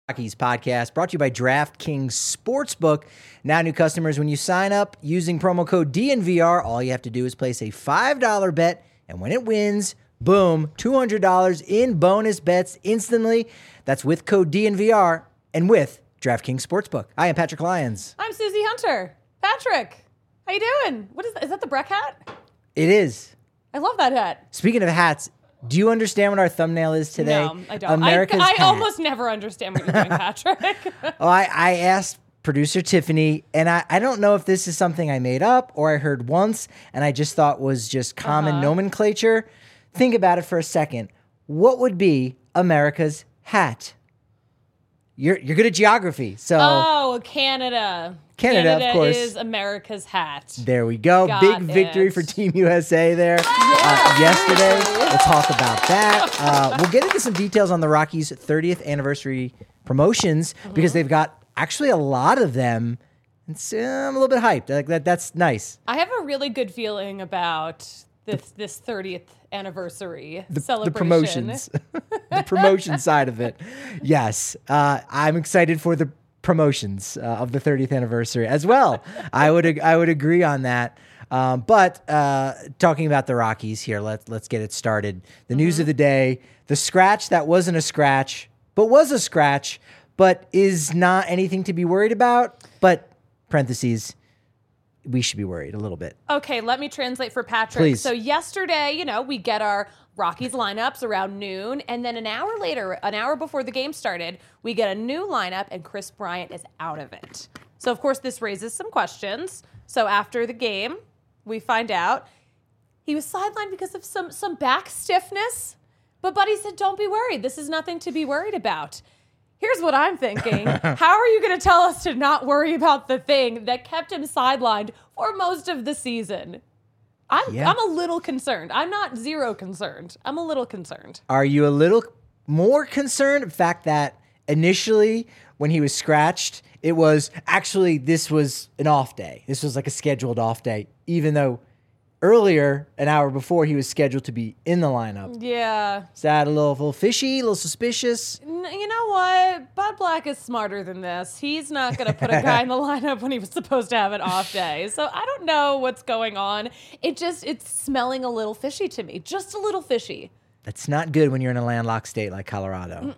Rockies podcast brought to you by DraftKings Sportsbook. Now new customers, when you sign up using promo code DNVR, all you have to do is place a $5 bet, and when it wins, boom, $200 in bonus bets instantly. That's with code DNVR and with DraftKings Sportsbook. I am Patrick Lyons. I'm Susie Hunter. Patrick, how you doing? What is that? Is that the Breck hat? It is. I love that hat. Speaking of hats, do you understand what our thumbnail is today? No, I don't. America's I hat. almost never understand what you're doing, Patrick. I asked producer Tiffany, and I don't know if this is something I made up or I heard once, and I just thought was just common nomenclature. Think about it for a second. What would be America's hat? You're good at geography, so Canada. Canada, of course, is America's hat. There we go. Got Big victory it. for Team USA there yesterday. We'll talk about that. We'll get into some details on the Rockies' 30th anniversary promotions because they've got actually a lot of them. It's, I'm a little bit hyped. Like that's nice. I have a really good feeling about this 30th anniversary celebration. The promotions, the promotion side of it. Yes, I'm excited for the promotions of the 30th anniversary as well. I would agree on that. But talking about the Rockies here, let's get it started. The news of the day: the scratch that wasn't a scratch, but was a scratch, but is not anything to be worried about. But parentheses, we should be worried a little bit. Okay, let me translate for Patrick. Please. So yesterday, we get our Rockies lineups around noon, and then an hour later, an hour before the game started, we get a new lineup, and Kris Bryant is out of it. So, of course, this raises some questions. So after the game, we find out he was sidelined because of some back stiffness, but Buddy said, don't be worried. This is nothing to be worried about. Here's what I'm thinking. How are you going to tell us to not worry about the thing that kept him sidelined for most of the season? I'm a little concerned. I'm not zero concerned. I'm a little concerned. Are you a little more concerned? The fact that initially when he was scratched, it was actually, this was an off day. This was like a scheduled off day, even though earlier, an hour before, he was scheduled to be in the lineup. Yeah. Is that a little fishy, a little suspicious? You know what? Bud Black is smarter than this. He's not going to put a guy in the lineup when he was supposed to have an off day. So I don't know what's going on. It's smelling a little fishy to me. Just a little fishy. That's not good when you're in a landlocked state like Colorado.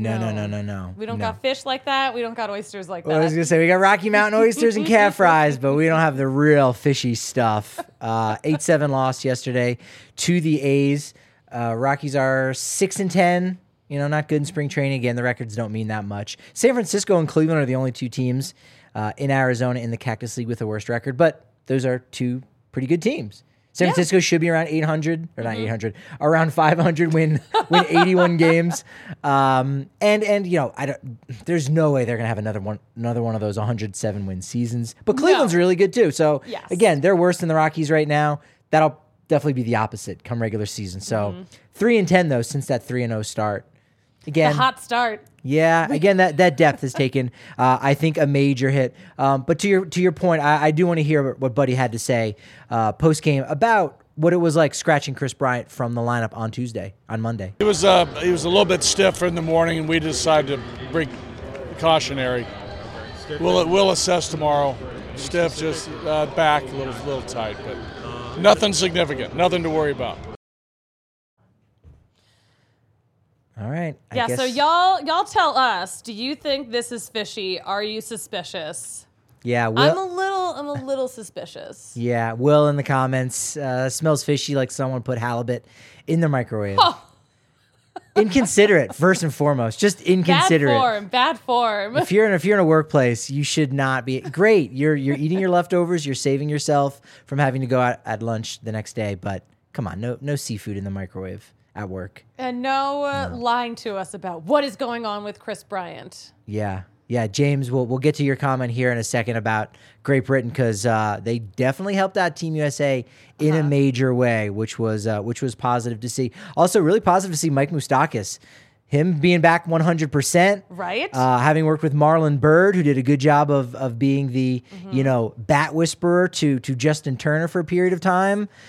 No. We don't got fish like that. We don't got oysters like that. Well, I was going to say, we got Rocky Mountain oysters and cat fries, but we don't have the real fishy stuff. 8-7 loss yesterday to the A's. Rockies are 6-10. Not good in spring training. Again, the records don't mean that much. San Francisco and Cleveland are the only two teams in Arizona in the Cactus League with the worst record, but those are two pretty good teams. San Francisco should be around 800, or not 800, around 500, win 81 games. There's no way they're going to have another one of those 107 win seasons. But Cleveland's really good too. So again, they're worse than the Rockies right now. That'll definitely be the opposite come regular season. So 3-10 though, since that 3-0 start. Again, the hot start. Yeah, again, that depth has taken, I think, a major hit. But to your point, I do want to hear what Buddy had to say post game about what it was like scratching Kris Bryant from the lineup on Monday. He was a little bit stiff in the morning, and we decided to bring cautionary. We'll assess tomorrow. Stiff, just back a little tight, but nothing significant, nothing to worry about. All right. I guess. So y'all tell us, do you think this is fishy? Are you suspicious? Yeah, I'm a little suspicious. Yeah, Will in the comments smells fishy like someone put halibut in the microwave. Oh. Inconsiderate, first and foremost. Just inconsiderate. Bad form. If you're in a workplace, you should not be. Great, you're eating your leftovers. You're saving yourself from having to go out at lunch the next day. But come on, no seafood in the microwave at work. And no lying to us about what is going on with Kris Bryant. Yeah, James, we'll get to your comment here in a second about Great Britain because they definitely helped out Team USA in a major way, which was positive to see. Also, really positive to see Mike Moustakas, him being back 100%. Right. Having worked with Marlon Byrd, who did a good job of being the bat whisperer to Justin Turner for a period of time.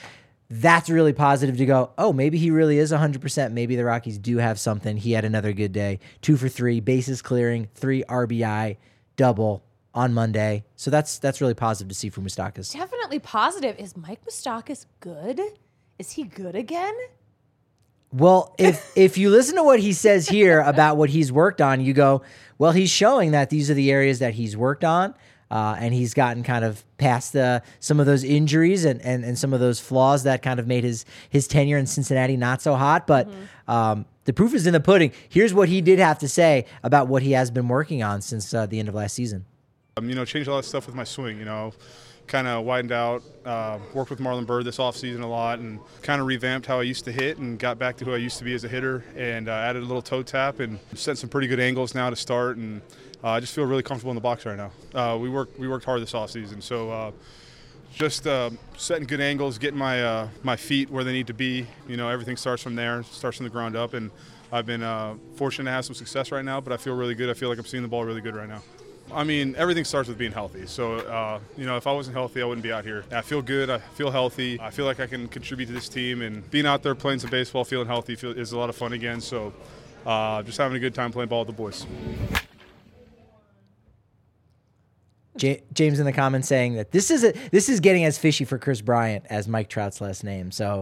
that's really positive to go, oh, maybe he really is 100%. Maybe the Rockies do have something. He had another good day. 2 for 3, bases clearing, 3 RBI, double on Monday. So that's really positive to see from Moustakas. Definitely positive. Is Mike Moustakas good? Is he good again? Well, if you listen to what he says here about what he's worked on, you go, well, he's showing that these are the areas that he's worked on, and he's gotten kind of past some of those injuries and some of those flaws that kind of made his tenure in Cincinnati not so hot. But the proof is in the pudding. Here's what he did have to say about what he has been working on since the end of last season. Changed a lot of stuff with my swing, kind of widened out, worked with Marlon Byrd this offseason a lot, and kind of revamped how I used to hit and got back to who I used to be as a hitter, and added a little toe tap and set some pretty good angles now to start, and I just feel really comfortable in the box right now. We worked hard this offseason, so just setting good angles, getting my feet where they need to be. Everything starts from there, starts from the ground up, and I've been fortunate to have some success right now, but I feel really good. I feel like I'm seeing the ball really good right now. Everything starts with being healthy. So, if I wasn't healthy, I wouldn't be out here. I feel good. I feel healthy. I feel like I can contribute to this team. And being out there playing some baseball, feeling healthy is a lot of fun again. So, just having a good time playing ball with the boys. James in the comments saying that this is getting as fishy for Chris Bryant as Mike Trout's last name. So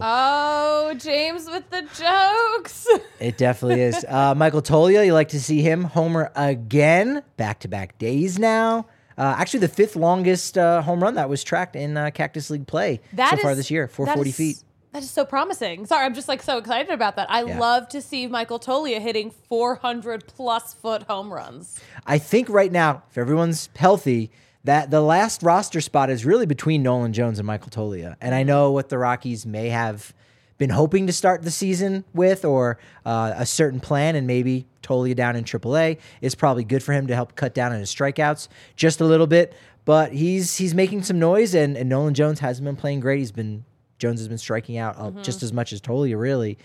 James with the jokes. It definitely is. Michael Toglia, you like to see him homer again, back-to-back days now. Actually, the 5th longest home run that was tracked in Cactus League play so far this year, 440 feet. That is so promising. Sorry, I'm just so excited about that. I love to see Michael Toglia hitting 400-plus foot home runs. I think right now, if everyone's healthy, that the last roster spot is really between Nolan Jones and Michael Toglia. And I know what the Rockies may have been hoping to start the season with, or a certain plan, and maybe Toglia down in AAA is probably good for him to help cut down on his strikeouts just a little bit. But he's making some noise, and Nolan Jones hasn't been playing great. Jones has been striking out just as much as Toglia, really.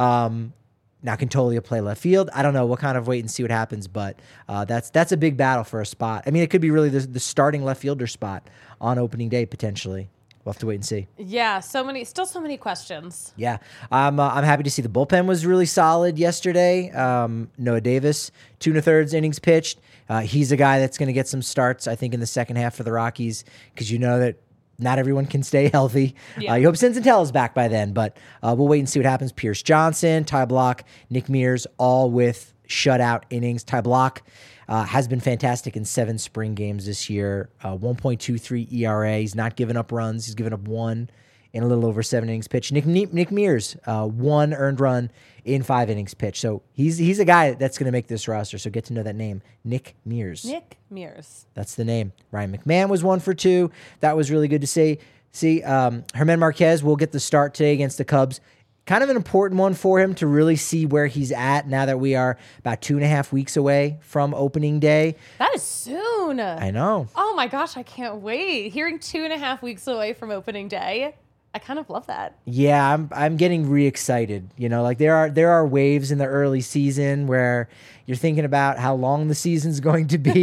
Now, can Toglia play left field? I don't know. We'll kind of wait and see what happens, but that's a big battle for a spot. It could be really the starting left fielder spot on opening day, potentially. We'll have to wait and see. Yeah, so many questions. Yeah, I'm happy to see the bullpen was really solid yesterday. Noah Davis, 2 1/3 innings pitched. He's a guy that's going to get some starts, I think, in the second half for the Rockies, because that not everyone can stay healthy. Yeah. You hope Senzatella is back by then, but we'll wait and see what happens. Pierce Johnson, Ty Block, Nick Mears, all with shutout innings. Ty Block has been fantastic in 7 spring games this year. 1.23 ERA. He's not given up runs. He's given up 1 in a little over 7 innings pitched. Nick Mears, 1 earned run in 5 innings pitched. So he's a guy that's going to make this roster. So get to know that name, Nick Mears. Nick Mears. That's the name. Ryan McMahon was 1 for 2. That was really good to see. German Marquez will get the start today against the Cubs. Kind of an important one for him to really see where he's at now that we are about 2.5 weeks away from opening day. That is soon. I know. Oh my gosh, I can't wait. Hearing 2.5 weeks away from opening day, I kind of love that. Yeah, I'm getting re-excited. There are waves in the early season where you're thinking about how long the season's going to be,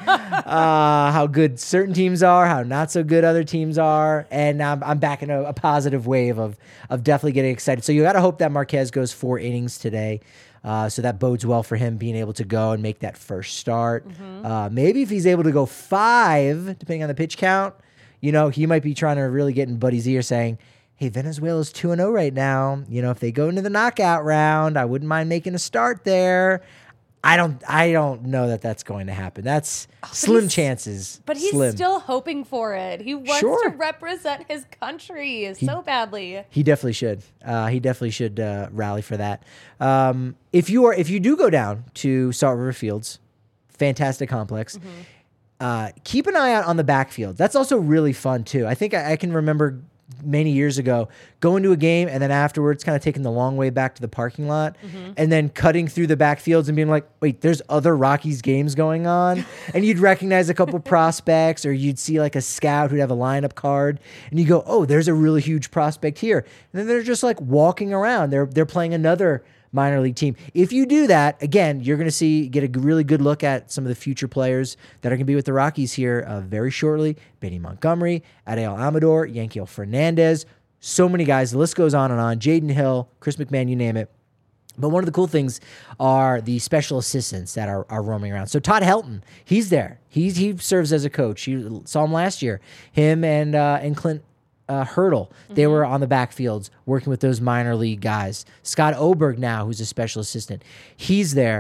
how good certain teams are, how not so good other teams are, and I'm back in a positive wave of definitely getting excited. So you got to hope that Marquez goes 4 innings today. So that bodes well for him being able to go and make that first start. Maybe if he's able to go 5, depending on the pitch count, he might be trying to really get in Buddy's ear saying, hey, Venezuela's 2-0 right now. If they go into the knockout round, I wouldn't mind making a start there. I don't know that that's going to happen. That's slim chances. But he's still hoping for it. He wants to represent his country so badly. He definitely should. He definitely should rally for that. If you do go down to Salt River Fields, fantastic complex. Keep an eye out on the backfield. That's also really fun too. I think I can remember many years ago going to a game and then afterwards kind of taking the long way back to the parking lot and then cutting through the backfields and being like, wait, there's other Rockies games going on. And you'd recognize a couple prospects, or you'd see like a scout who'd have a lineup card and you go, oh, there's a really huge prospect here. And then they're just like walking around. They're playing another minor league team. If you do that, again, you're going to get a really good look at some of the future players that are going to be with the Rockies here very shortly. Benny Montgomery, Adael Amador, Yankiel Fernandez, So many guys. The list goes on and on. Jaden Hill, Chris McMahon, you name it. But one of the cool things are the special assistants that are roaming around. So Todd Helton, he's there. He serves as a coach. You saw him last year. Him and Clint Hurdle, they were on the backfields working with those minor league guys. Scott Oberg now, who's a special assistant, he's there.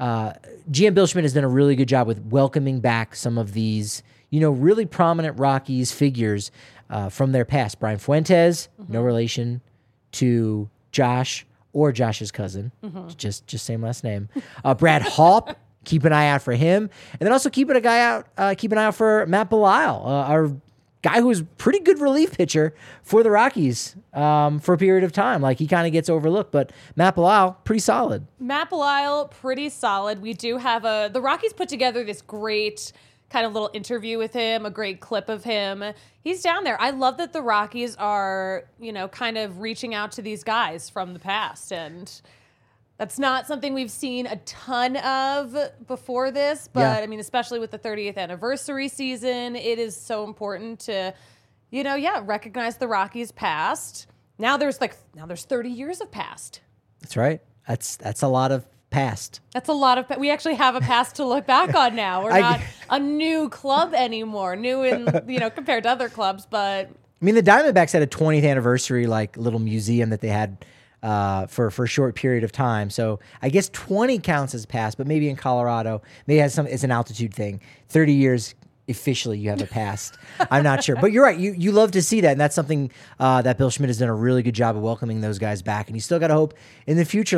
GM Bill Schmidt has done a really good job with welcoming back some of these, really prominent Rockies figures from their past. Brian Fuentes, no relation to Josh or Josh's cousin, just same last name. Brad Haupt, keep an eye out for him, and then also keep an eye out for Matt Belisle, our guy who was a pretty good relief pitcher for the Rockies for a period of time. Like, he kind of gets overlooked, but Matt Belisle, pretty solid. Matt Belisle, pretty solid. We do have the Rockies put together this great kind of little interview with him, a great clip of him. He's down there. I love that the Rockies are, kind of reaching out to these guys from the past, and that's not something we've seen a ton of before this, but Yeah. I mean, especially with the 30th anniversary season, it is so important to, recognize the Rockies' past. Now there's 30 years of past. That's right. That's a lot of past. That's a lot of. We actually have a past to look back on now. We're not a new club anymore. New in compared to other clubs, but I mean, the Diamondbacks had a 20th anniversary little museum that they had for a short period of time. So I guess 20 counts as past, but maybe in Colorado, maybe it's an altitude thing. 30 years officially you have a past. I'm not sure, but you're right. You love to see that, and that's something that Bill Schmidt has done a really good job of welcoming those guys back. And you still got to hope in the future,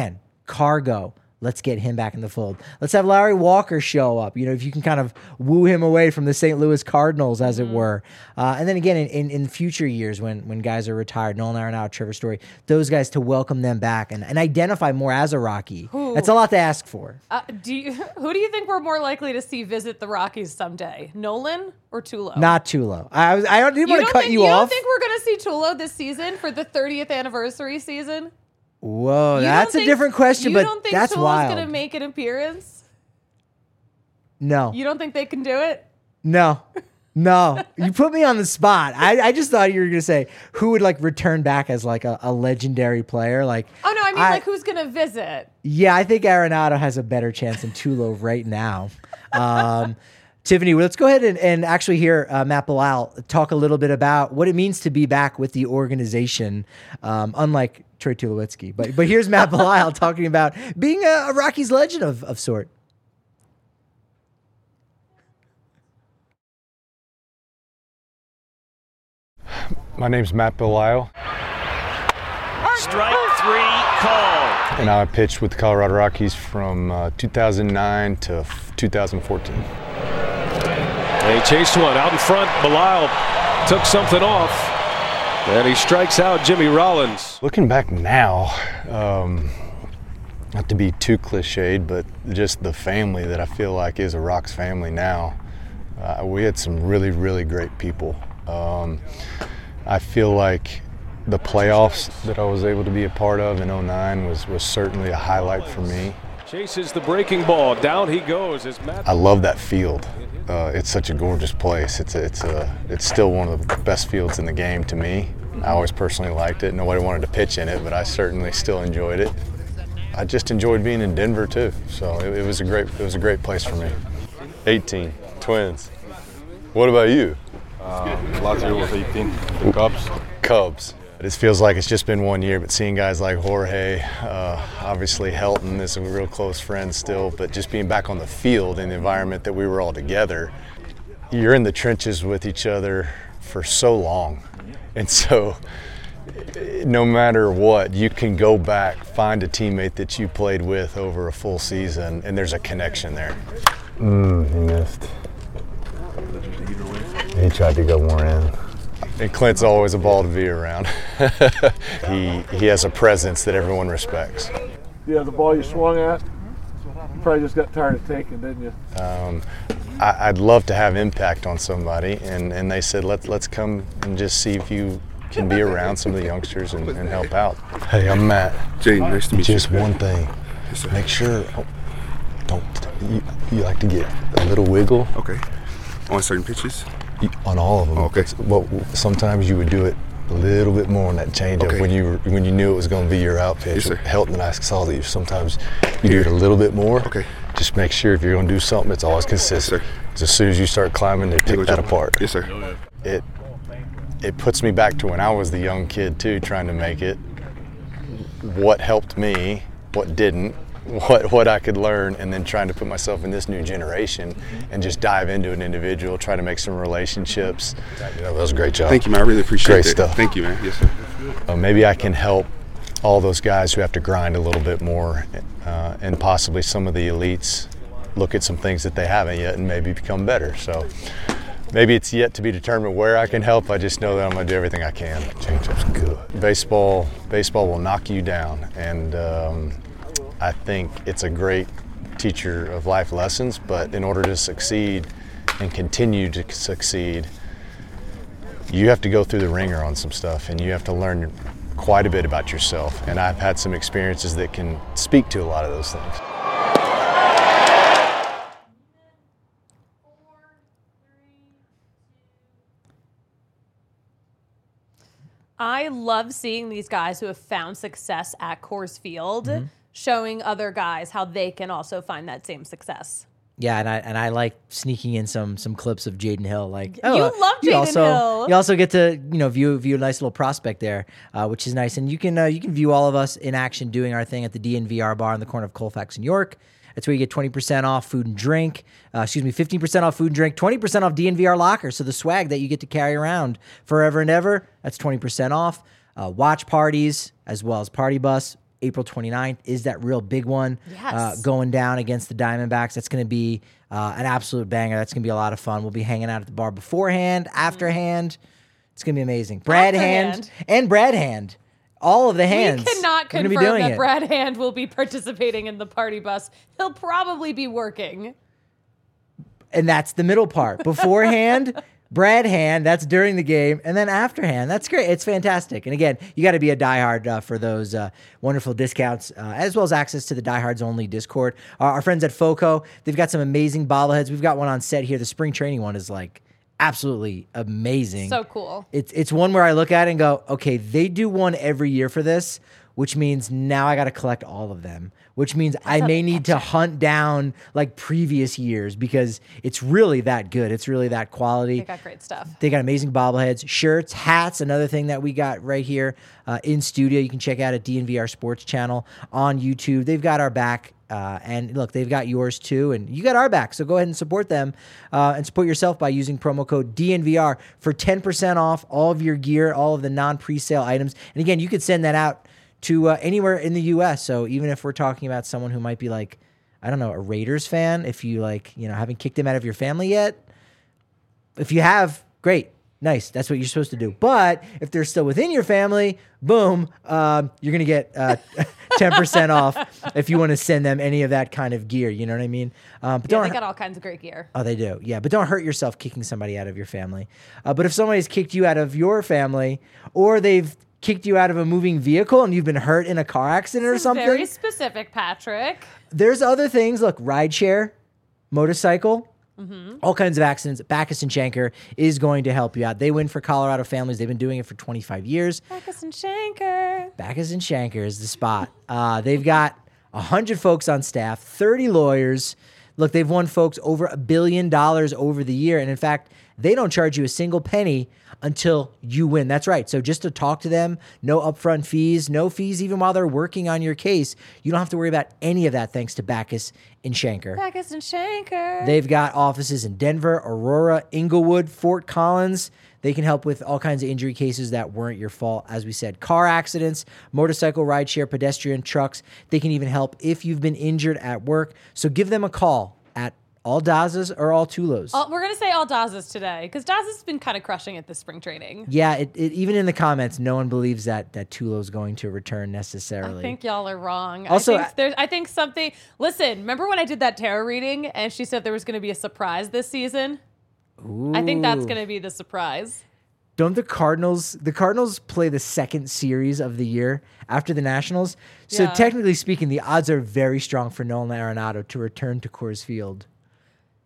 Cargo, let's get him back in the fold. Let's have Larry Walker show up. If you can kind of woo him away from the St. Louis Cardinals, as it were. And then again, in future years when guys are retired, Nolan Arenado, Trevor Story, those guys, to welcome them back and identify more as a Rocky. That's a lot to ask for. who do you think we're more likely to see visit the Rockies someday, Nolan or Tulo? Not Tulo. I didn't want to cut you off. You don't think we're going to see Tulo this season for the 30th anniversary season? Whoa, that's a different question, but that's Tulo's wild. going to make an appearance? No. You don't think they can do it? No. You put me on the spot. I just thought you were going to say who would return back as a legendary player. Oh, no, I mean who's going to visit? Yeah, I think Arenado has a better chance than Tulo right now. Tiffany, let's go ahead and actually hear Matt Belisle talk a little bit about what it means to be back with the organization, unlike Troy Tulowitzki. But here's Matt Belisle talking about being a Rockies legend of sort. My name's Matt Belisle. Strike three called. And I pitched with the Colorado Rockies from 2009 to 2014. They chased one out in front. Belisle took something off, and he strikes out Jimmy Rollins. Looking back now, not to be too cliched, but just the family that I feel like is a Rocks family now. We had some really, really great people. I feel like the playoffs that I was able to be a part of in 2009 was certainly a highlight for me. Chases the breaking ball. Down he goes as Matt. I love that field. It's such a gorgeous place. It's still one of the best fields in the game to me. I always personally liked it. Nobody wanted to pitch in it, but I certainly still enjoyed it. I just enjoyed being in Denver too. So it was a great place for me. 18 Twins. What about you? Last year was 18. The Cubs. It feels like it's just been 1 year, but seeing guys like Jorge, obviously Helton is a real close friend still, but just being back on the field in the environment that we were all together, you're in the trenches with each other for so long. And so no matter what, you can go back, find a teammate that you played with over a full season, and there's a connection there. He missed. He tried to go more in. And Clint's always a ball to be around. He has a presence that everyone respects. Yeah, the ball you swung at, you probably just got tired of taking, didn't you? I'd love to have impact on somebody, and they said, let's come and just see if you can be around some of the youngsters and help out. Hey, I'm Matt. Jane, nice to meet you. Just one thing. Make sure, you like to get a little wiggle. Okay. On certain pitches? On all of them. Okay. Well, sometimes you would do it a little bit more on that changeup Okay. when you knew it was going to be your out pitch. Yes, sir. Helton and I saw that sometimes you do it a little bit more. Okay. Just make sure if you're going to do something, it's always consistent. sir. 'Cause as soon as you start climbing, they pick that apart. Yes, sir. It puts me back to when I was the young kid too, trying to make it. What helped me, what didn't, what I could learn, and then trying to put myself in this new generation and just dive into an individual, try to make some relationships. That was a great job. Thank you, man. I really appreciate Great that. stuff. Thank you, man. Yes, sir. Maybe I can help all those guys who have to grind a little bit more, and possibly some of the elites look at some things that they haven't yet and maybe become better. So maybe it's yet to be determined where I can help. I just know that I'm going to do everything I can. Changeup's good. Baseball will knock you down, and I think it's a great teacher of life lessons. But in order to succeed and continue to succeed, you have to go through the ringer on some stuff, and you have to learn quite a bit about yourself. And I've had some experiences that can speak to a lot of those things. I love seeing these guys who have found success at Coors Field, showing other guys how they can also find that same success. Yeah, and I like sneaking in some clips of Jaden Hill. Like, You love Jaden Hill. You also get to view a nice little prospect there, which is nice. And you can view all of us in action doing our thing at the DNVR bar on the corner of Colfax and York. That's where you get 20% off food and drink. 15% off food and drink, 20% off DNVR locker. So the swag that you get to carry around forever and ever, that's 20% off. Watch parties as well as Party Bus. April 29th is that real big one. Yes. Going down against the Diamondbacks. That's going to be an absolute banger. That's going to be a lot of fun. We'll be hanging out at the bar beforehand, afterhand. It's going to be amazing. Brad Hand and Brad Hand. All of the hands. We cannot We're gonna be confirm doing that it. Brad Hand will be participating in the Party Bus. He'll probably be working. And that's the middle part. Beforehand, Brad Hand, that's during the game. And then afterhand, that's great. It's fantastic. And again, you got to be a diehard for those wonderful discounts, as well as access to the Diehards Only Discord. Our friends at FOCO, they've got some amazing bobbleheads. We've got one on set here. The spring training one is like absolutely amazing. So cool. It's one where I look at it and go, okay, they do one every year for this, which means now I got to collect all of them, which means I may need to hunt down like previous years because it's really that good. It's really that quality. They got great stuff. They got amazing bobbleheads, shirts, hats, another thing that we got right here in studio. You can check out at DNVR Sports Channel on YouTube. They've got our back. And look, they've got yours too, and you got our back. So go ahead and support them and support yourself by using promo code DNVR for 10% off all of your gear, all of the non-presale items. And again, you could send that out to anywhere in the U.S. So even if we're talking about someone who might be like, I don't know, a Raiders fan, if you haven't kicked them out of your family yet, if you have, great. Nice. That's what you're supposed to do. But if they're still within your family, boom, you're going to get 10% off if you want to send them any of that kind of gear. You know what I mean? But They don't. got all kinds of great gear. Oh, they do. Yeah, but don't hurt yourself kicking somebody out of your family. But if somebody's kicked you out of your family or they've kicked you out of a moving vehicle and you've been hurt in a car accident or something, Very specific, Patrick. there's other things. Look, rideshare, motorcycle, all kinds of accidents. Backus and Shanker is going to help you out. They win for Colorado families. They've been doing it for 25 years. Backus and Shanker. Backus and Shanker is the spot. They've got 100 folks on staff, 30 lawyers. Look, they've won folks over $1 billion over the year. And in fact, they don't charge you a single penny until you win. That's right. So just to talk to them, no upfront fees, no fees even while they're working on your case. You don't have to worry about any of that thanks to Backus and Shanker. Backus and Shanker. They've got offices in Denver, Aurora, Inglewood, Fort Collins. They can help with all kinds of injury cases that weren't your fault. As we said, car accidents, motorcycle, rideshare, pedestrian, trucks. They can even help if you've been injured at work. So give them a call at all Dazas or all Tulos. We're going to say all Dazas today because Dazas has been kind of crushing it this spring training. Yeah, it even in the comments, no one believes that Tulo's going to return necessarily. I think y'all are wrong. Also, I think something. Listen, remember when I did that tarot reading and she said there was going to be a surprise this season? Ooh. I think that's going to be the surprise. Don't the Cardinals play the second series of the year after the Nationals? So Yeah. technically speaking, the odds are very strong for Nolan Arenado to return to Coors Field.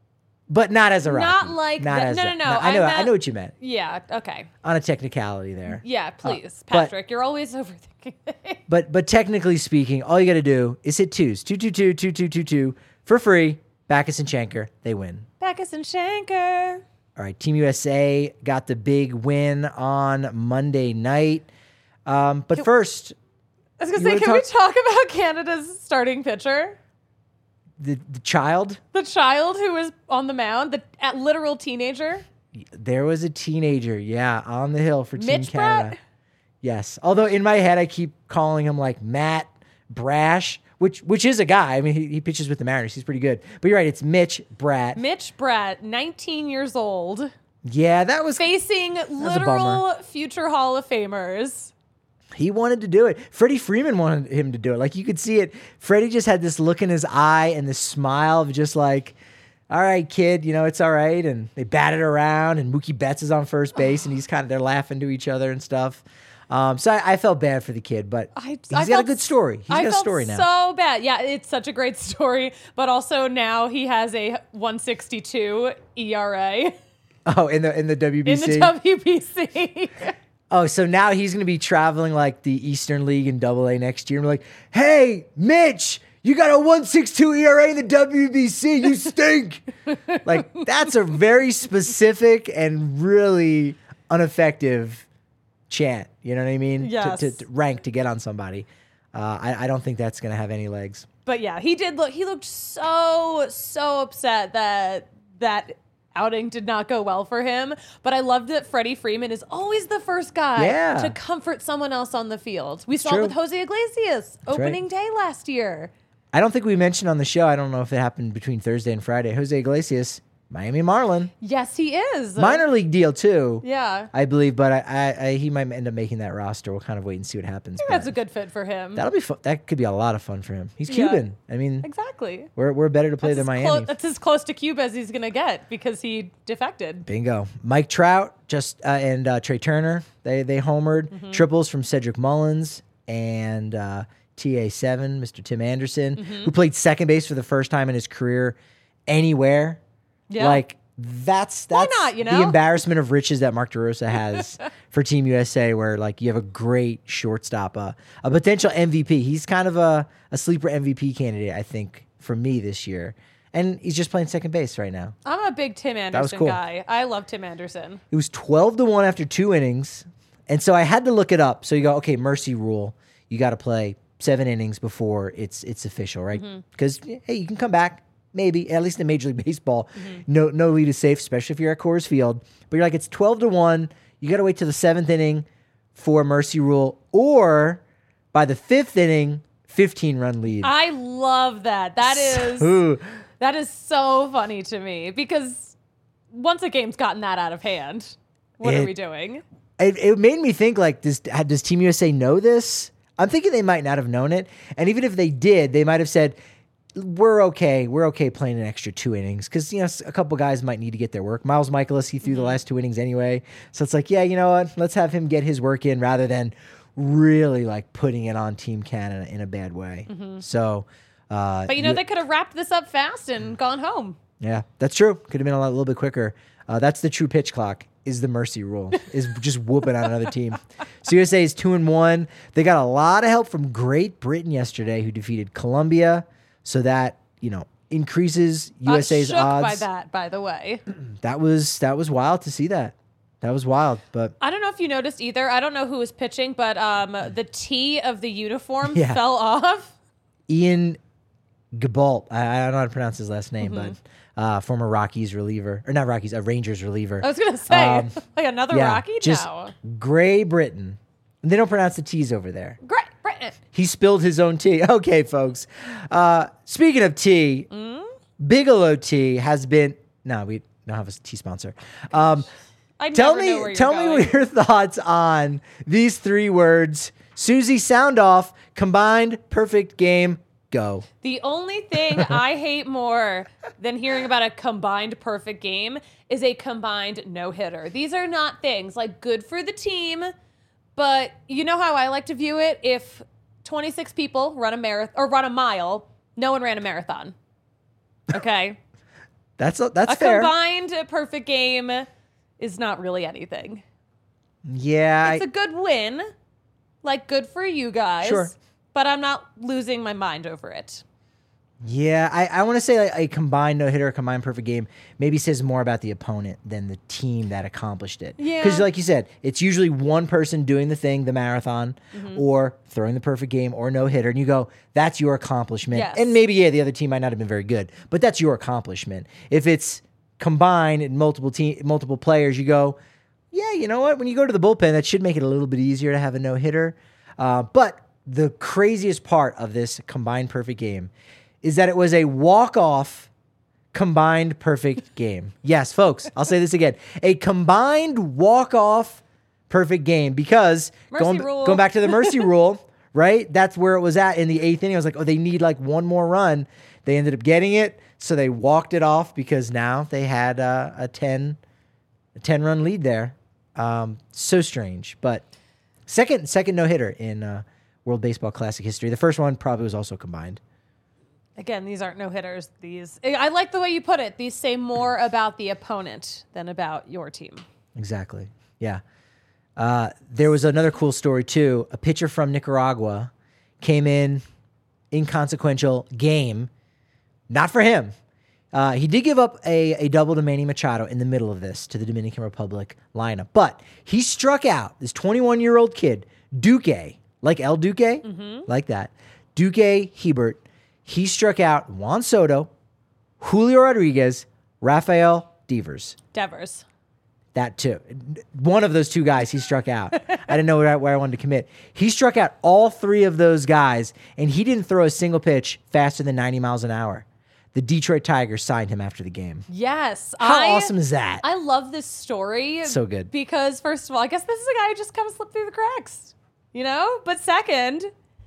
But not as a Rocky. Not like Not that. as No, that. no, no. I know what you meant. Yeah. Okay. On a technicality there. Yeah. Please, but- Patrick. You're always overthinking things. But technically speaking, all you got to do is hit twos. 222 2222 for free. Backus and Schenker, they win. Backus and Schenker. All right, Team USA got the big win on Monday night. But first, I was gonna You say, wanna can we talk about Canada's starting pitcher? the child, The child who was on the mound, the literal teenager. there was a teenager, on the hill for Team Mitch Canada. Bratt? Yes. Although in my head, I keep calling him like Matt Brash, which is a guy. I mean, he pitches with the Mariners. He's pretty good. But you're right. It's Mitch Bratt. Mitch Bratt, 19 years old, Yeah, that was. facing a literal future Hall of Famers. He wanted to do it. Freddie Freeman wanted him to do it. Like you could see it. Freddie just had this look in his eye and this smile of just like, all right, kid, it's all right. And they batted around and Mookie Betts is on first base and they're laughing to each other and stuff. So I felt bad for the kid, but he's got a good story. He's got a story now. So bad. Yeah, it's such a great story. But also now he has a 1.62 ERA Oh, in the WBC. in the WBC. Oh, so now he's going to be traveling like the Eastern League in AA next year. And we're like, hey, Mitch, you got a 1.62 ERA in the WBC. You stink. Like, that's a very specific and really ineffective chant. You know what I mean? Yes. To rank to get on somebody. I don't think that's going to have any legs. But yeah, he looked so upset that outing did not go well for him. But I loved that Freddie Freeman is always the first guy to comfort someone else on the field. We saw true. it with Jose Iglesias opening day last year. I don't think we mentioned on the show, I don't know if it happened between Thursday and Friday, Jose Iglesias, Miami Marlin. Yes, he is. Minor league deal, too. Yeah. I believe, but he might end up making that roster. We'll kind of wait and see what happens. I think that's a good fit for him. That'll be fun. That could be a lot of fun for him. He's Yeah. Cuban. I mean, Exactly. we're better to play than That's Miami. that's as close to Cuba as he's going to get because he defected. Bingo. Mike Trout and Trey Turner, they homered. Mm-hmm. Triples from Cedric Mullins and TA7, Mr. Tim Anderson, Mm-hmm. who played second base for the first time in his career anywhere. Yeah. Like, that's not, you the know? embarrassment of riches that Mark DeRosa has for Team USA, where like you have a great shortstop, a potential MVP. He's kind of a sleeper MVP candidate, I think, for me this year. And he's just playing second base right now. I'm a big Tim was Anderson cool. guy. I love Tim Anderson. It was 12-1 after 2 innings. And so I had to look it up. So you go, okay, mercy rule. You got to play 7 innings before it's official, right? Because, hey, you can come back. Maybe, at least in Major League Baseball. No lead is safe, especially if you're at Coors Field. But you're like, it's 12-1. You got to wait till the 7th inning for mercy rule. Or by the 5th inning, 15-run lead. I love that. Ooh. That is so funny to me because once a game's gotten that out of hand, what are we doing? It made me think, like, does Team USA know this? I'm thinking they might not have known it. And even if they did, they might have said, we're okay playing an extra 2 innings because, a couple guys might need to get their work. Miles Michaelis, he threw the last 2 innings anyway. So it's like, yeah, you know what? Let's have him get his work in rather than really, like, putting it on Team Canada in a bad way. So... But they could have wrapped this up fast and gone home. Yeah, that's true. Could have been a little bit quicker. That's the true pitch clock. Is the mercy rule? Is just whooping on another team. So USA is 2-1. They got a lot of help from Great Britain yesterday, who defeated Colombia. So that increases USA's shook odds. by that, by the way. That was wild to see that. That was wild. But I don't know if you noticed either. I don't know who was pitching, but the T of the uniform Yeah. fell off. Ian Gabalt, I don't know how to pronounce his last name, but former Rockies reliever, or not Rockies, a Rangers reliever. I was gonna say like another Rocky. Just No, Gray Britain. They don't pronounce the T's over there. Great Britain. He spilled his own tea. Okay, folks. Speaking of tea, Bigelow Tea has been. No, we don't have a tea sponsor. I Tell never know where me, you're tell going. me your thoughts on these 3 words. Susie, sound off. Combined perfect game. Go. The only thing I hate more than hearing about a combined perfect game is a combined no-hitter. These are not things like good for the team, but you know how I like to view it? If 26 people run a marathon or run a mile, no one ran a marathon. Okay? That's A fair. combined perfect game is not really anything. Yeah. It's a good win. Like, good for you guys. Sure. But I'm not losing my mind over it. Yeah, I want to say like a combined no-hitter, a combined perfect game maybe says more about the opponent than the team that accomplished it. Yeah. Because like you said, it's usually one person doing the thing, the marathon, or throwing the perfect game or no-hitter, and you go, that's your accomplishment. Yes. And maybe, the other team might not have been very good, but that's your accomplishment. If it's combined and multiple players, you go, yeah, you know what? When you go to the bullpen, that should make it a little bit easier to have a no-hitter. But the craziest part of this combined perfect game is that it was a walk-off combined perfect game. Yes, folks, I'll say this again. A combined walk-off perfect game because going back to the mercy rule, right? That's where it was at in the 8th inning. I was like, they need like one more run. They ended up getting it, so they walked it off because now they had a 10-run lead there. So strange, but second no-hitter in World Baseball Classic history. The first one probably was also combined. Again, these aren't no-hitters. I like the way you put it. These say more about the opponent than about your team. Exactly. Yeah. There was another cool story, too. A pitcher from Nicaragua came in, inconsequential game. Not for him. He did give up a double to Manny Machado in the middle of this to the Dominican Republic lineup. But he struck out this 21-year-old kid, Duque, like El Duque, like that. Duque Hebert. He struck out Juan Soto, Julio Rodriguez, Rafael Devers. That too. One of those two guys he struck out. I didn't know where I wanted to commit. He struck out all three of those guys, and he didn't throw a single pitch faster than 90 miles an hour. The Detroit Tigers signed him after the game. Yes. How awesome is that? I love this story. So good. Because, first of all, I guess this is a guy who just kind of slipped through the cracks, you know? But second,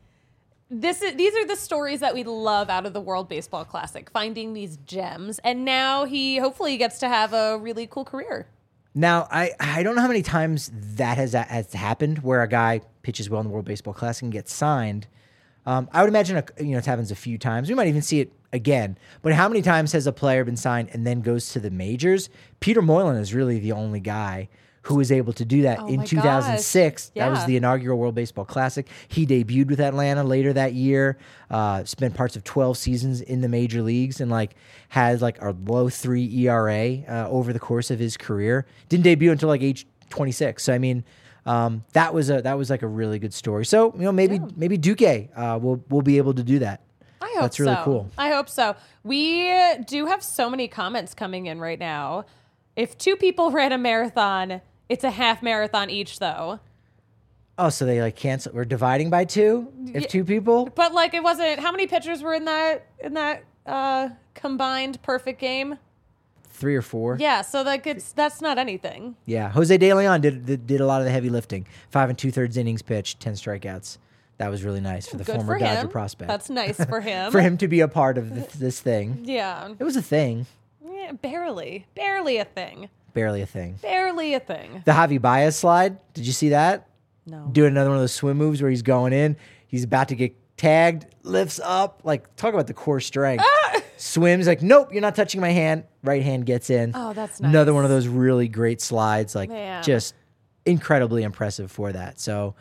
these are the stories that we love out of the World Baseball Classic, finding these gems. And now he hopefully gets to have a really cool career. Now, I don't know how many times that has happened where a guy pitches well in the World Baseball Classic and gets signed. I would imagine it happens a few times. We might even see it again. But how many times has a player been signed and then goes to the majors? Peter Moylan is really the only guy who was able to do that in 2006. Yeah. That was the inaugural World Baseball Classic. He debuted with Atlanta later that year, spent parts of 12 seasons in the major leagues, and has a low 3 ERA over the course of his career. Didn't debut until age 26. So I mean, that was a really good story. So maybe Duque will be able to do that. I hope That's really so. cool. I hope so. We do have so many comments coming in right now. If two people ran a marathon, it's a half marathon each, though. Oh, so they cancel? We're dividing by two if two people? But it wasn't. How many pitchers were in that combined perfect game? 3 or 4. Yeah, so that's not anything. Yeah, Jose De Leon did a lot of the heavy lifting. 5 2/3 innings pitched, 10 strikeouts. That was really nice for the Good former for Dodger him. prospect. That's nice for him. For him to be a part of this thing. Yeah. It was a thing. Yeah, barely a thing. Barely a thing. Barely a thing. The Javi Baez slide, did you see that? No. Doing another one of those swim moves where he's going in. He's about to get tagged, lifts up. Talk about the core strength. Swims, nope, you're not touching my hand. Right hand gets in. Oh, that's nice. Another one of those really great slides. Man. Just incredibly impressive for that. So,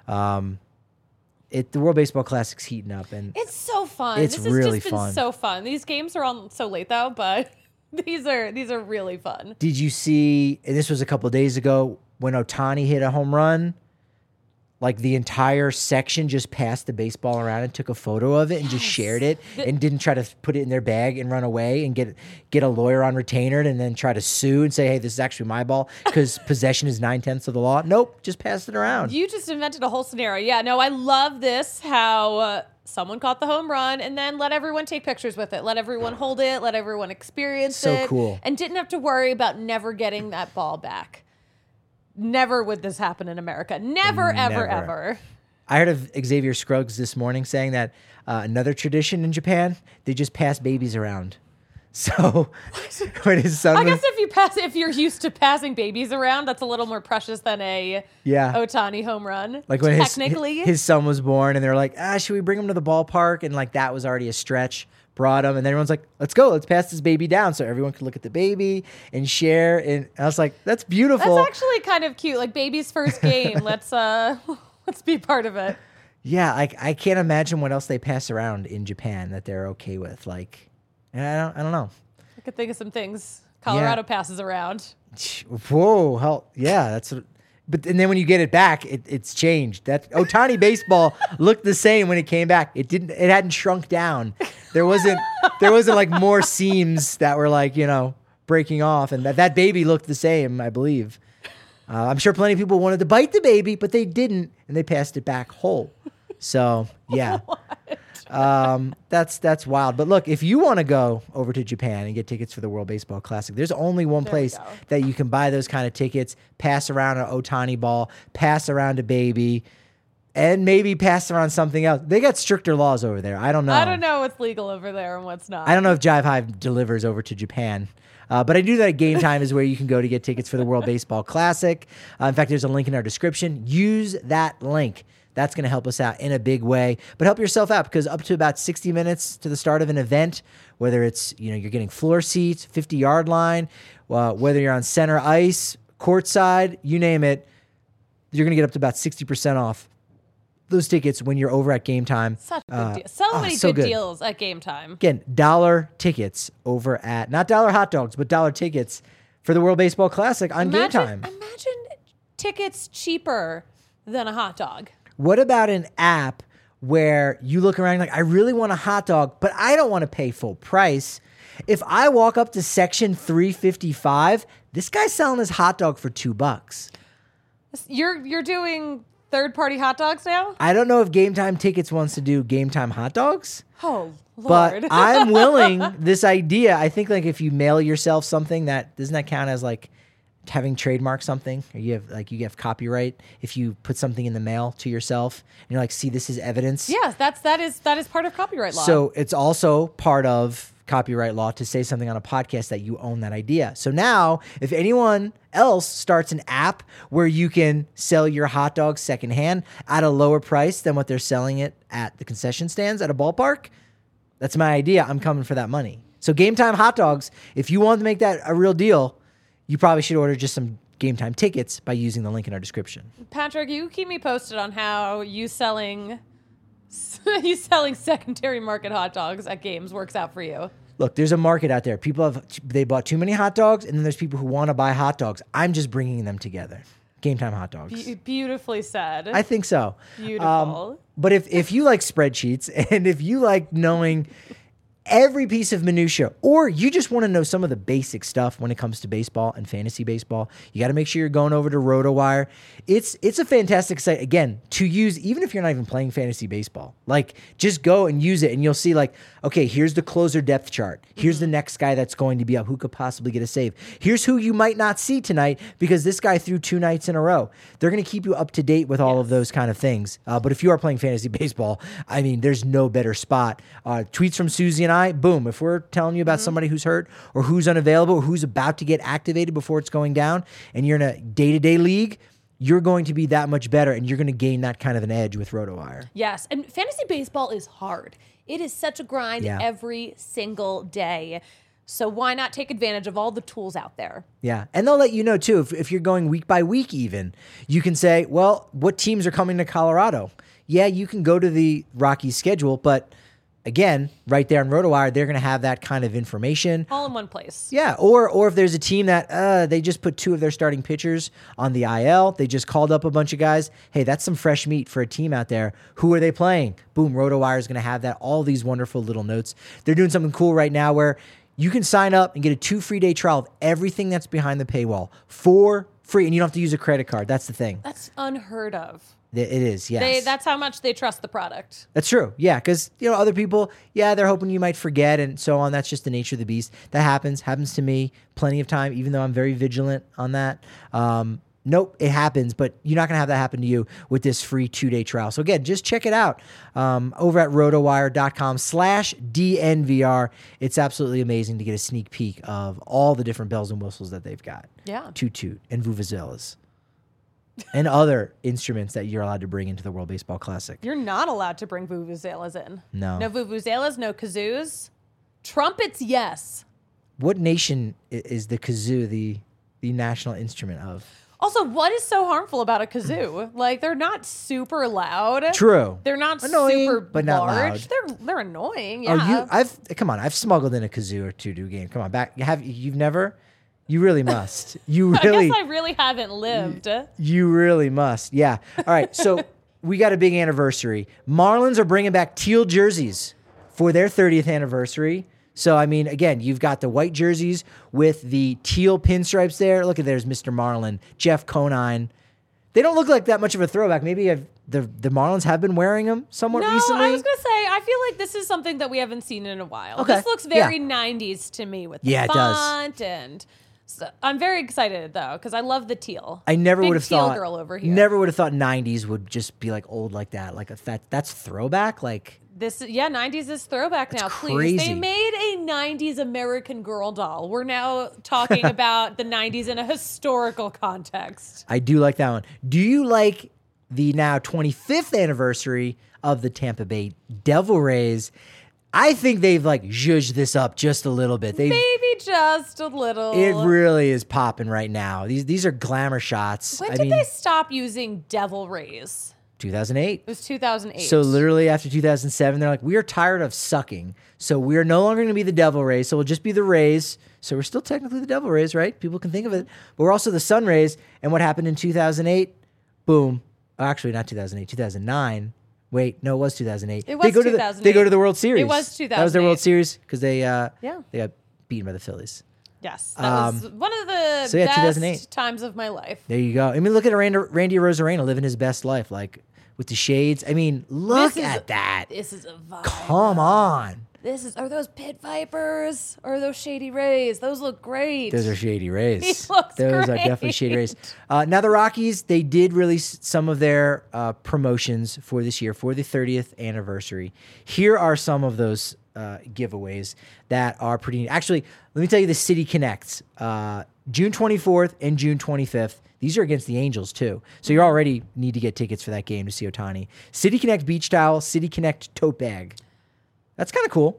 the World Baseball Classic's heating up, and it's so fun. It's this has really just been fun. so fun. These games are on so late though, but these are really fun. Did you see, and this was a couple of days ago, when Ohtani hit a home run, the entire section just passed the baseball around and took a photo of it and just shared it and didn't try to put it in their bag and run away and get a lawyer on retainer and then try to sue and say, hey, this is actually my ball because possession is 9/10 of the law. Nope, just passed it around. You just invented a whole scenario. Yeah, no, I love this, how someone caught the home run and then let everyone take pictures with it. Let everyone hold it. Let everyone experience it. So cool. And didn't have to worry about never getting that ball back. Never would this happen in America. Never, ever, ever. I heard of Xavier Scruggs this morning saying that another tradition in Japan, they just pass babies around. So when his son I guess if you're used to passing babies around, that's a little more precious than a Ohtani home run. When technically, his son was born and they're like, should we bring him to the ballpark? And that was already a stretch brought them, and then everyone's like, let's go, let's pass this baby down so everyone can look at the baby and share. And I was like, that's beautiful. That's actually kind of cute. Like baby's first game. Let's be part of it. Yeah, I can't imagine what else they pass around in Japan that they're okay with. Like, and I don't know. I could think of some things Colorado passes around. Whoa, hell yeah, that's what, and then when you get it back, it's changed. That Ohtani baseball looked the same when it came back. It hadn't shrunk down. There wasn't like more seams that were like, breaking off, and that baby looked the same, I believe. I'm sure plenty of people wanted to bite the baby, but they didn't, and they passed it back whole. So yeah. That's wild. But look, if you want to go over to Japan and get tickets for the World Baseball Classic, there's only one place that you can buy those kind of tickets, pass around an Ohtani ball, pass around a baby, and maybe pass around something else. They got stricter laws over there. I don't know. I don't know what's legal over there and what's not. I don't know if Jive Hive delivers over to Japan. But I do that Game Time is where you can go to get tickets for the World Baseball Classic. In fact, there's a link in our description. Use that link. That's going to help us out in a big way. But help yourself out, because up to about 60 minutes to the start of an event, whether it's you're getting floor seats, 50-yard line, whether you're on center ice, courtside, you name it, you're going to get up to about 60% off those tickets when you're over at Game Time. Such a good deal. So many good deals at Game Time. Again, $1 tickets over at, not $1 hot dogs, but $1 tickets for the World Baseball Classic on Game Time. Imagine tickets cheaper than a hot dog. What about an app where you look around like, I really want a hot dog, but I don't want to pay full price. If I walk up to section 355, this guy's selling his hot dog for $2. You're doing third-party hot dogs now? I don't know if Game Time Tickets wants to do Game Time hot dogs. Oh, Lord. But I'm willing, this idea, I think like if you mail yourself something, doesn't that count as like having trademarked something, or you have copyright if you put something in the mail to yourself and you're like, see, this is evidence. Yes, that is part of copyright law. So it's also part of copyright law to say something on a podcast that you own that idea. So now if anyone else starts an app where you can sell your hot dogs secondhand at a lower price than what they're selling it at the concession stands at a ballpark, that's my idea. I'm coming for that money. So Game Time hot dogs, if you want to make that a real deal, you probably should order just some Game Time tickets by using the link in our description. Patrick, you keep me posted on how you selling secondary market hot dogs at games works out for you. Look, there's a market out there. They bought too many hot dogs, and then there's people who want to buy hot dogs. I'm just bringing them together. Game Time hot dogs. Beautifully said. I think so. Beautiful. But if you like spreadsheets and if you like knowing every piece of minutia, or you just want to know some of the basic stuff when it comes to baseball and fantasy baseball, you got to make sure you're going over to RotoWire. It's a fantastic site, again, to use even if you're not even playing fantasy baseball. Like, just go and use it, and you'll see like, okay, here's the closer depth chart. Here's the next guy that's going to be up who could possibly get a save. Here's who you might not see tonight because this guy threw 2 nights in a row. They're going to keep you up to date with all of those kind of things. But if you are playing fantasy baseball, I mean, there's no better spot. Tweets from Susie and I, boom. If we're telling you about somebody who's hurt or who's unavailable or who's about to get activated before it's going down, and you're in a day-to-day league, you're going to be that much better, and you're going to gain that kind of an edge with RotoWire. Yes, and fantasy baseball is hard. It is such a grind every single day. So why not take advantage of all the tools out there? Yeah, and they'll let you know, too, if you're going week by week even. You can say, well, what teams are coming to Colorado? Yeah, you can go to the Rockies schedule, but again, right there on RotoWire, they're going to have that kind of information. All in one place. Yeah, or if there's a team that they just put 2 of their starting pitchers on the IL, they just called up a bunch of guys. Hey, that's some fresh meat for a team out there. Who are they playing? Boom, RotoWire is going to have that. All these wonderful little notes. They're doing something cool right now where you can sign up and get a 2 free day trial of everything that's behind the paywall for free, and you don't have to use a credit card. That's the thing. That's unheard of. It is, yes. That's how much they trust the product. That's true, yeah, because other people, they're hoping you might forget and so on. That's just the nature of the beast. That happens to me plenty of time, even though I'm very vigilant on that. Nope, it happens, but you're not going to have that happen to you with this free 2-day trial. So again, just check it out over at rotowire.com/DNVR. It's absolutely amazing to get a sneak peek of all the different bells and whistles that they've got. Yeah. Toot and vuvuzelas. And other instruments that you're allowed to bring into the World Baseball Classic. You're not allowed to bring vuvuzelas in. No. No vuvuzelas, no kazoos. Trumpets, yes. What nation is the kazoo the national instrument of? Also, what is so harmful about a kazoo? Like, they're not super loud. True. They're not Annoying, super but not large. loud. They're annoying. Yeah. I've smuggled in a kazoo or two to a game. Come on, you've never? You really must. You really. I guess I really haven't lived. You really must. Yeah. All right. So we got a big anniversary. Marlins are bringing back teal jerseys for their 30th anniversary. So, I mean, again, you've got the white jerseys with the teal pinstripes there. Look at there's Mr. Marlin, Jeff Conine. They don't look like that much of a throwback. Maybe the Marlins have been wearing them somewhat recently. I was going to say, I feel like this is something that we haven't seen in a while. Okay. This looks very 90s to me with the font and... So I'm very excited though because I love the teal. I never would have teal thought. Girl over here. Never would have thought '90s would just be like old like that. Like that's throwback. Like this, 90s is throwback now. crazy. Please, they made a '90s American Girl doll. We're now talking about the '90s in a historical context. I do like that one. Do you like the now 25th anniversary of the Tampa Bay Devil Rays? I think they've like zhuzhed this up just a little bit. Maybe just a little. It really is popping right now. These are glamour shots. When did they stop using Devil Rays? 2008. It was 2008. So literally after 2007, they're like, we are tired of sucking. So we are no longer going to be the Devil Rays. So we'll just be the Rays. So we're still technically the Devil Rays, right? People can think of it. But we're also the Sun Rays. And what happened in 2008? Boom. Actually, not 2008, 2009. Wait, no, it was 2008. It was 2008. They go to the World Series. It was 2008. That was their World Series because they got beaten by the Phillies. Yes, that was one of the best 2008. times of my life. There you go. I mean, look at Randy Arozarena living his best life, like with the shades. I mean, look at that. This is a vibe. Come on. Are those Pit Vipers or are those Shady Rays? Those look great. Those are Shady Rays. He looks Those great. are definitely Shady Rays. Now the Rockies, they did release some of their promotions for this year for the 30th anniversary. Here are some of those giveaways that are pretty neat. Actually, let me tell you the City Connects. June 24th and June 25th. These are against the Angels, too. So you already need to get tickets for that game to see Ohtani. City Connect Beach Towel, City Connect Tote Bag. That's kind of cool.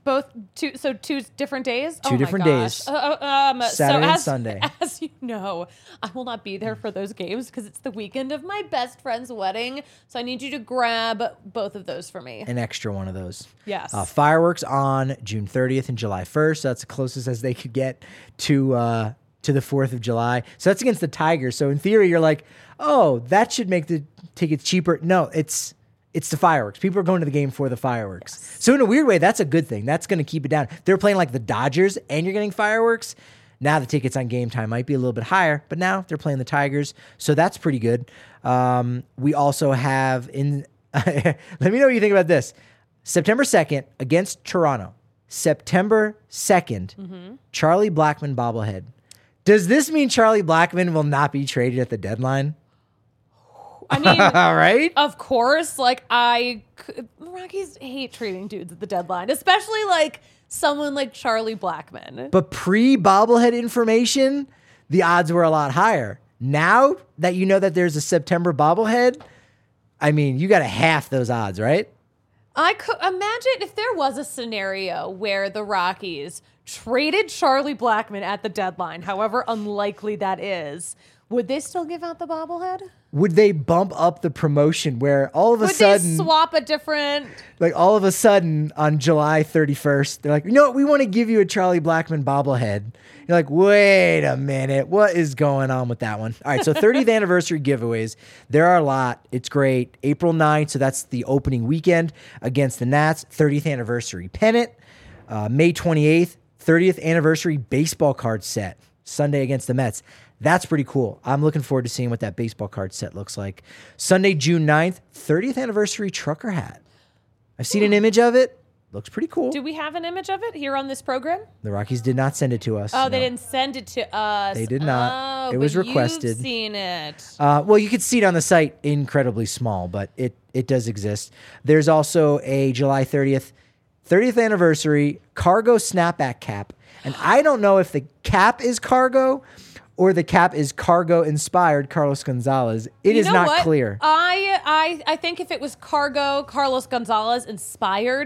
Two different days? Two different days. Saturday and Sunday. As you know, I will not be there for those games because it's the weekend of my best friend's wedding. So I need you to grab both of those for me. An extra one of those. Yes. Fireworks on June 30th and July 1st. So that's the closest as they could get to the 4th of July. So that's against the Tigers. So in theory, you're like, oh, that should make the tickets cheaper. No, it's the fireworks. People are going to the game for the fireworks. Yes. So in a weird way, that's a good thing. That's going to keep it down. If they're playing like the Dodgers and you're getting fireworks, now the tickets on game time might be a little bit higher, but now they're playing the Tigers. So that's pretty good. We also have let me know what you think about this. September 2nd against Toronto. September 2nd, Charlie Blackmon bobblehead. Does this mean Charlie Blackmon will not be traded at the deadline? I mean, right? Of course. Like, Rockies hate trading dudes at the deadline, especially like someone like Charlie Blackmon. But pre-bobblehead information, the odds were a lot higher. Now that you know that there's a September bobblehead, I mean, you got to half those odds, right? I could imagine if there was a scenario where the Rockies traded Charlie Blackmon at the deadline, however unlikely that is, would they still give out the bobblehead? Would they bump up the promotion where all of a sudden... Would they swap a different... Like all of a sudden on July 31st, they're like, you know what, we want to give you a Charlie Blackmon bobblehead. You're like, wait a minute, what is going on with that one? All right, so 30th anniversary giveaways. There are a lot. It's great. April 9th, so that's the opening weekend against the Nats. 30th anniversary pennant. May 28th, 30th anniversary baseball card set. Sunday against the Mets. That's pretty cool. I'm looking forward to seeing what that baseball card set looks like. Sunday, June 9th, 30th anniversary trucker hat. I've seen an image of it. Looks pretty cool. Do we have an image of it here on this program? The Rockies did not send it to us. Oh, no. They didn't send it to us. They did not. Oh, it was but requested. You've seen it. Well, you could see it on the site incredibly small, but it does exist. There's also a July 30th anniversary cargo snapback cap. And I don't know if the cap is cargo or the cap is cargo inspired Carlos Gonzalez. It is not clear. I think if it was cargo Carlos Gonzalez inspired,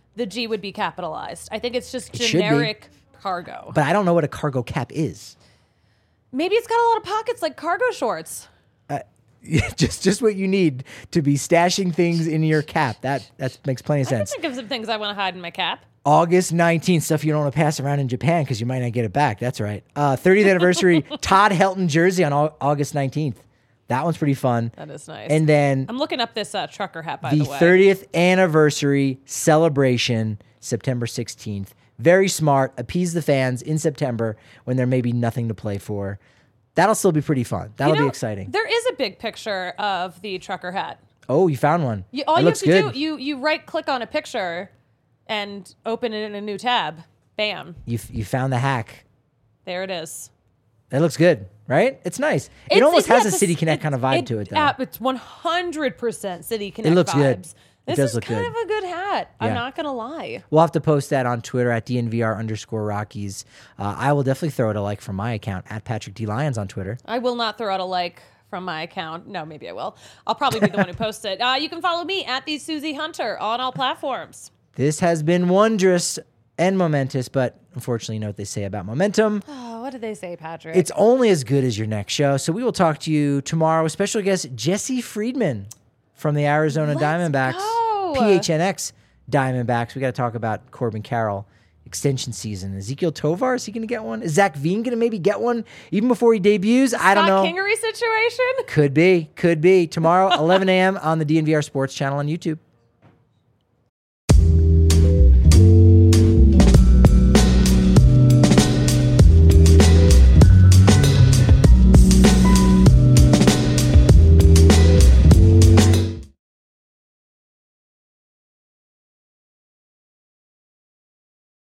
the G would be capitalized. I think it's just It should be. generic cargo. But I don't know what a cargo cap is. Maybe it's got a lot of pockets like cargo shorts. just what you need to be stashing things in your cap. That makes plenty of I can sense. think of some things I want to hide in my cap. August 19th, stuff you don't want to pass around in Japan because you might not get it back. That's right. 30th anniversary Todd Helton jersey on August 19th. That one's pretty fun. That is nice. And then I'm looking up this trucker hat, by the the way. 30th anniversary celebration, September 16th. Very smart. Appease the fans in September when there may be nothing to play for. That'll still be pretty fun. That'll be exciting. There is a big picture of the trucker hat. Oh, you found one. All It you have looks to good. do, you right click on a picture and open it in a new tab. Bam. You found the hack. There it is. That looks good, right? It's nice. It almost has a City Connect kind of vibe to it, though. It's 100% City Connect looks good. vibes. It This does is look kind good. of a good hat. I'm Yeah. not going to lie. We'll have to post that on Twitter at DNVR_Rockies. I will definitely throw it a like from my account at Patrick D. Lyons on Twitter. I will not throw out a like from my account. No, maybe I will. I'll probably be the one who posts it. You can follow me at the Susie Hunter on all platforms. This has been wondrous and momentous, but unfortunately, you know what they say about momentum. Oh, what did they say, Patrick? It's only as good as your next show. So we will talk to you tomorrow with special guest Jesse Friedman from the Arizona Diamondbacks. go. PHNX Diamondbacks. We got to talk about Corbin Carroll extension season. Ezekiel Tovar, is he going to get one? Is Zach Veen going to maybe get one even before he debuts? I don't know. Scott Kingery situation? Could be. Tomorrow, 11 a.m. on the DNVR Sports channel on YouTube.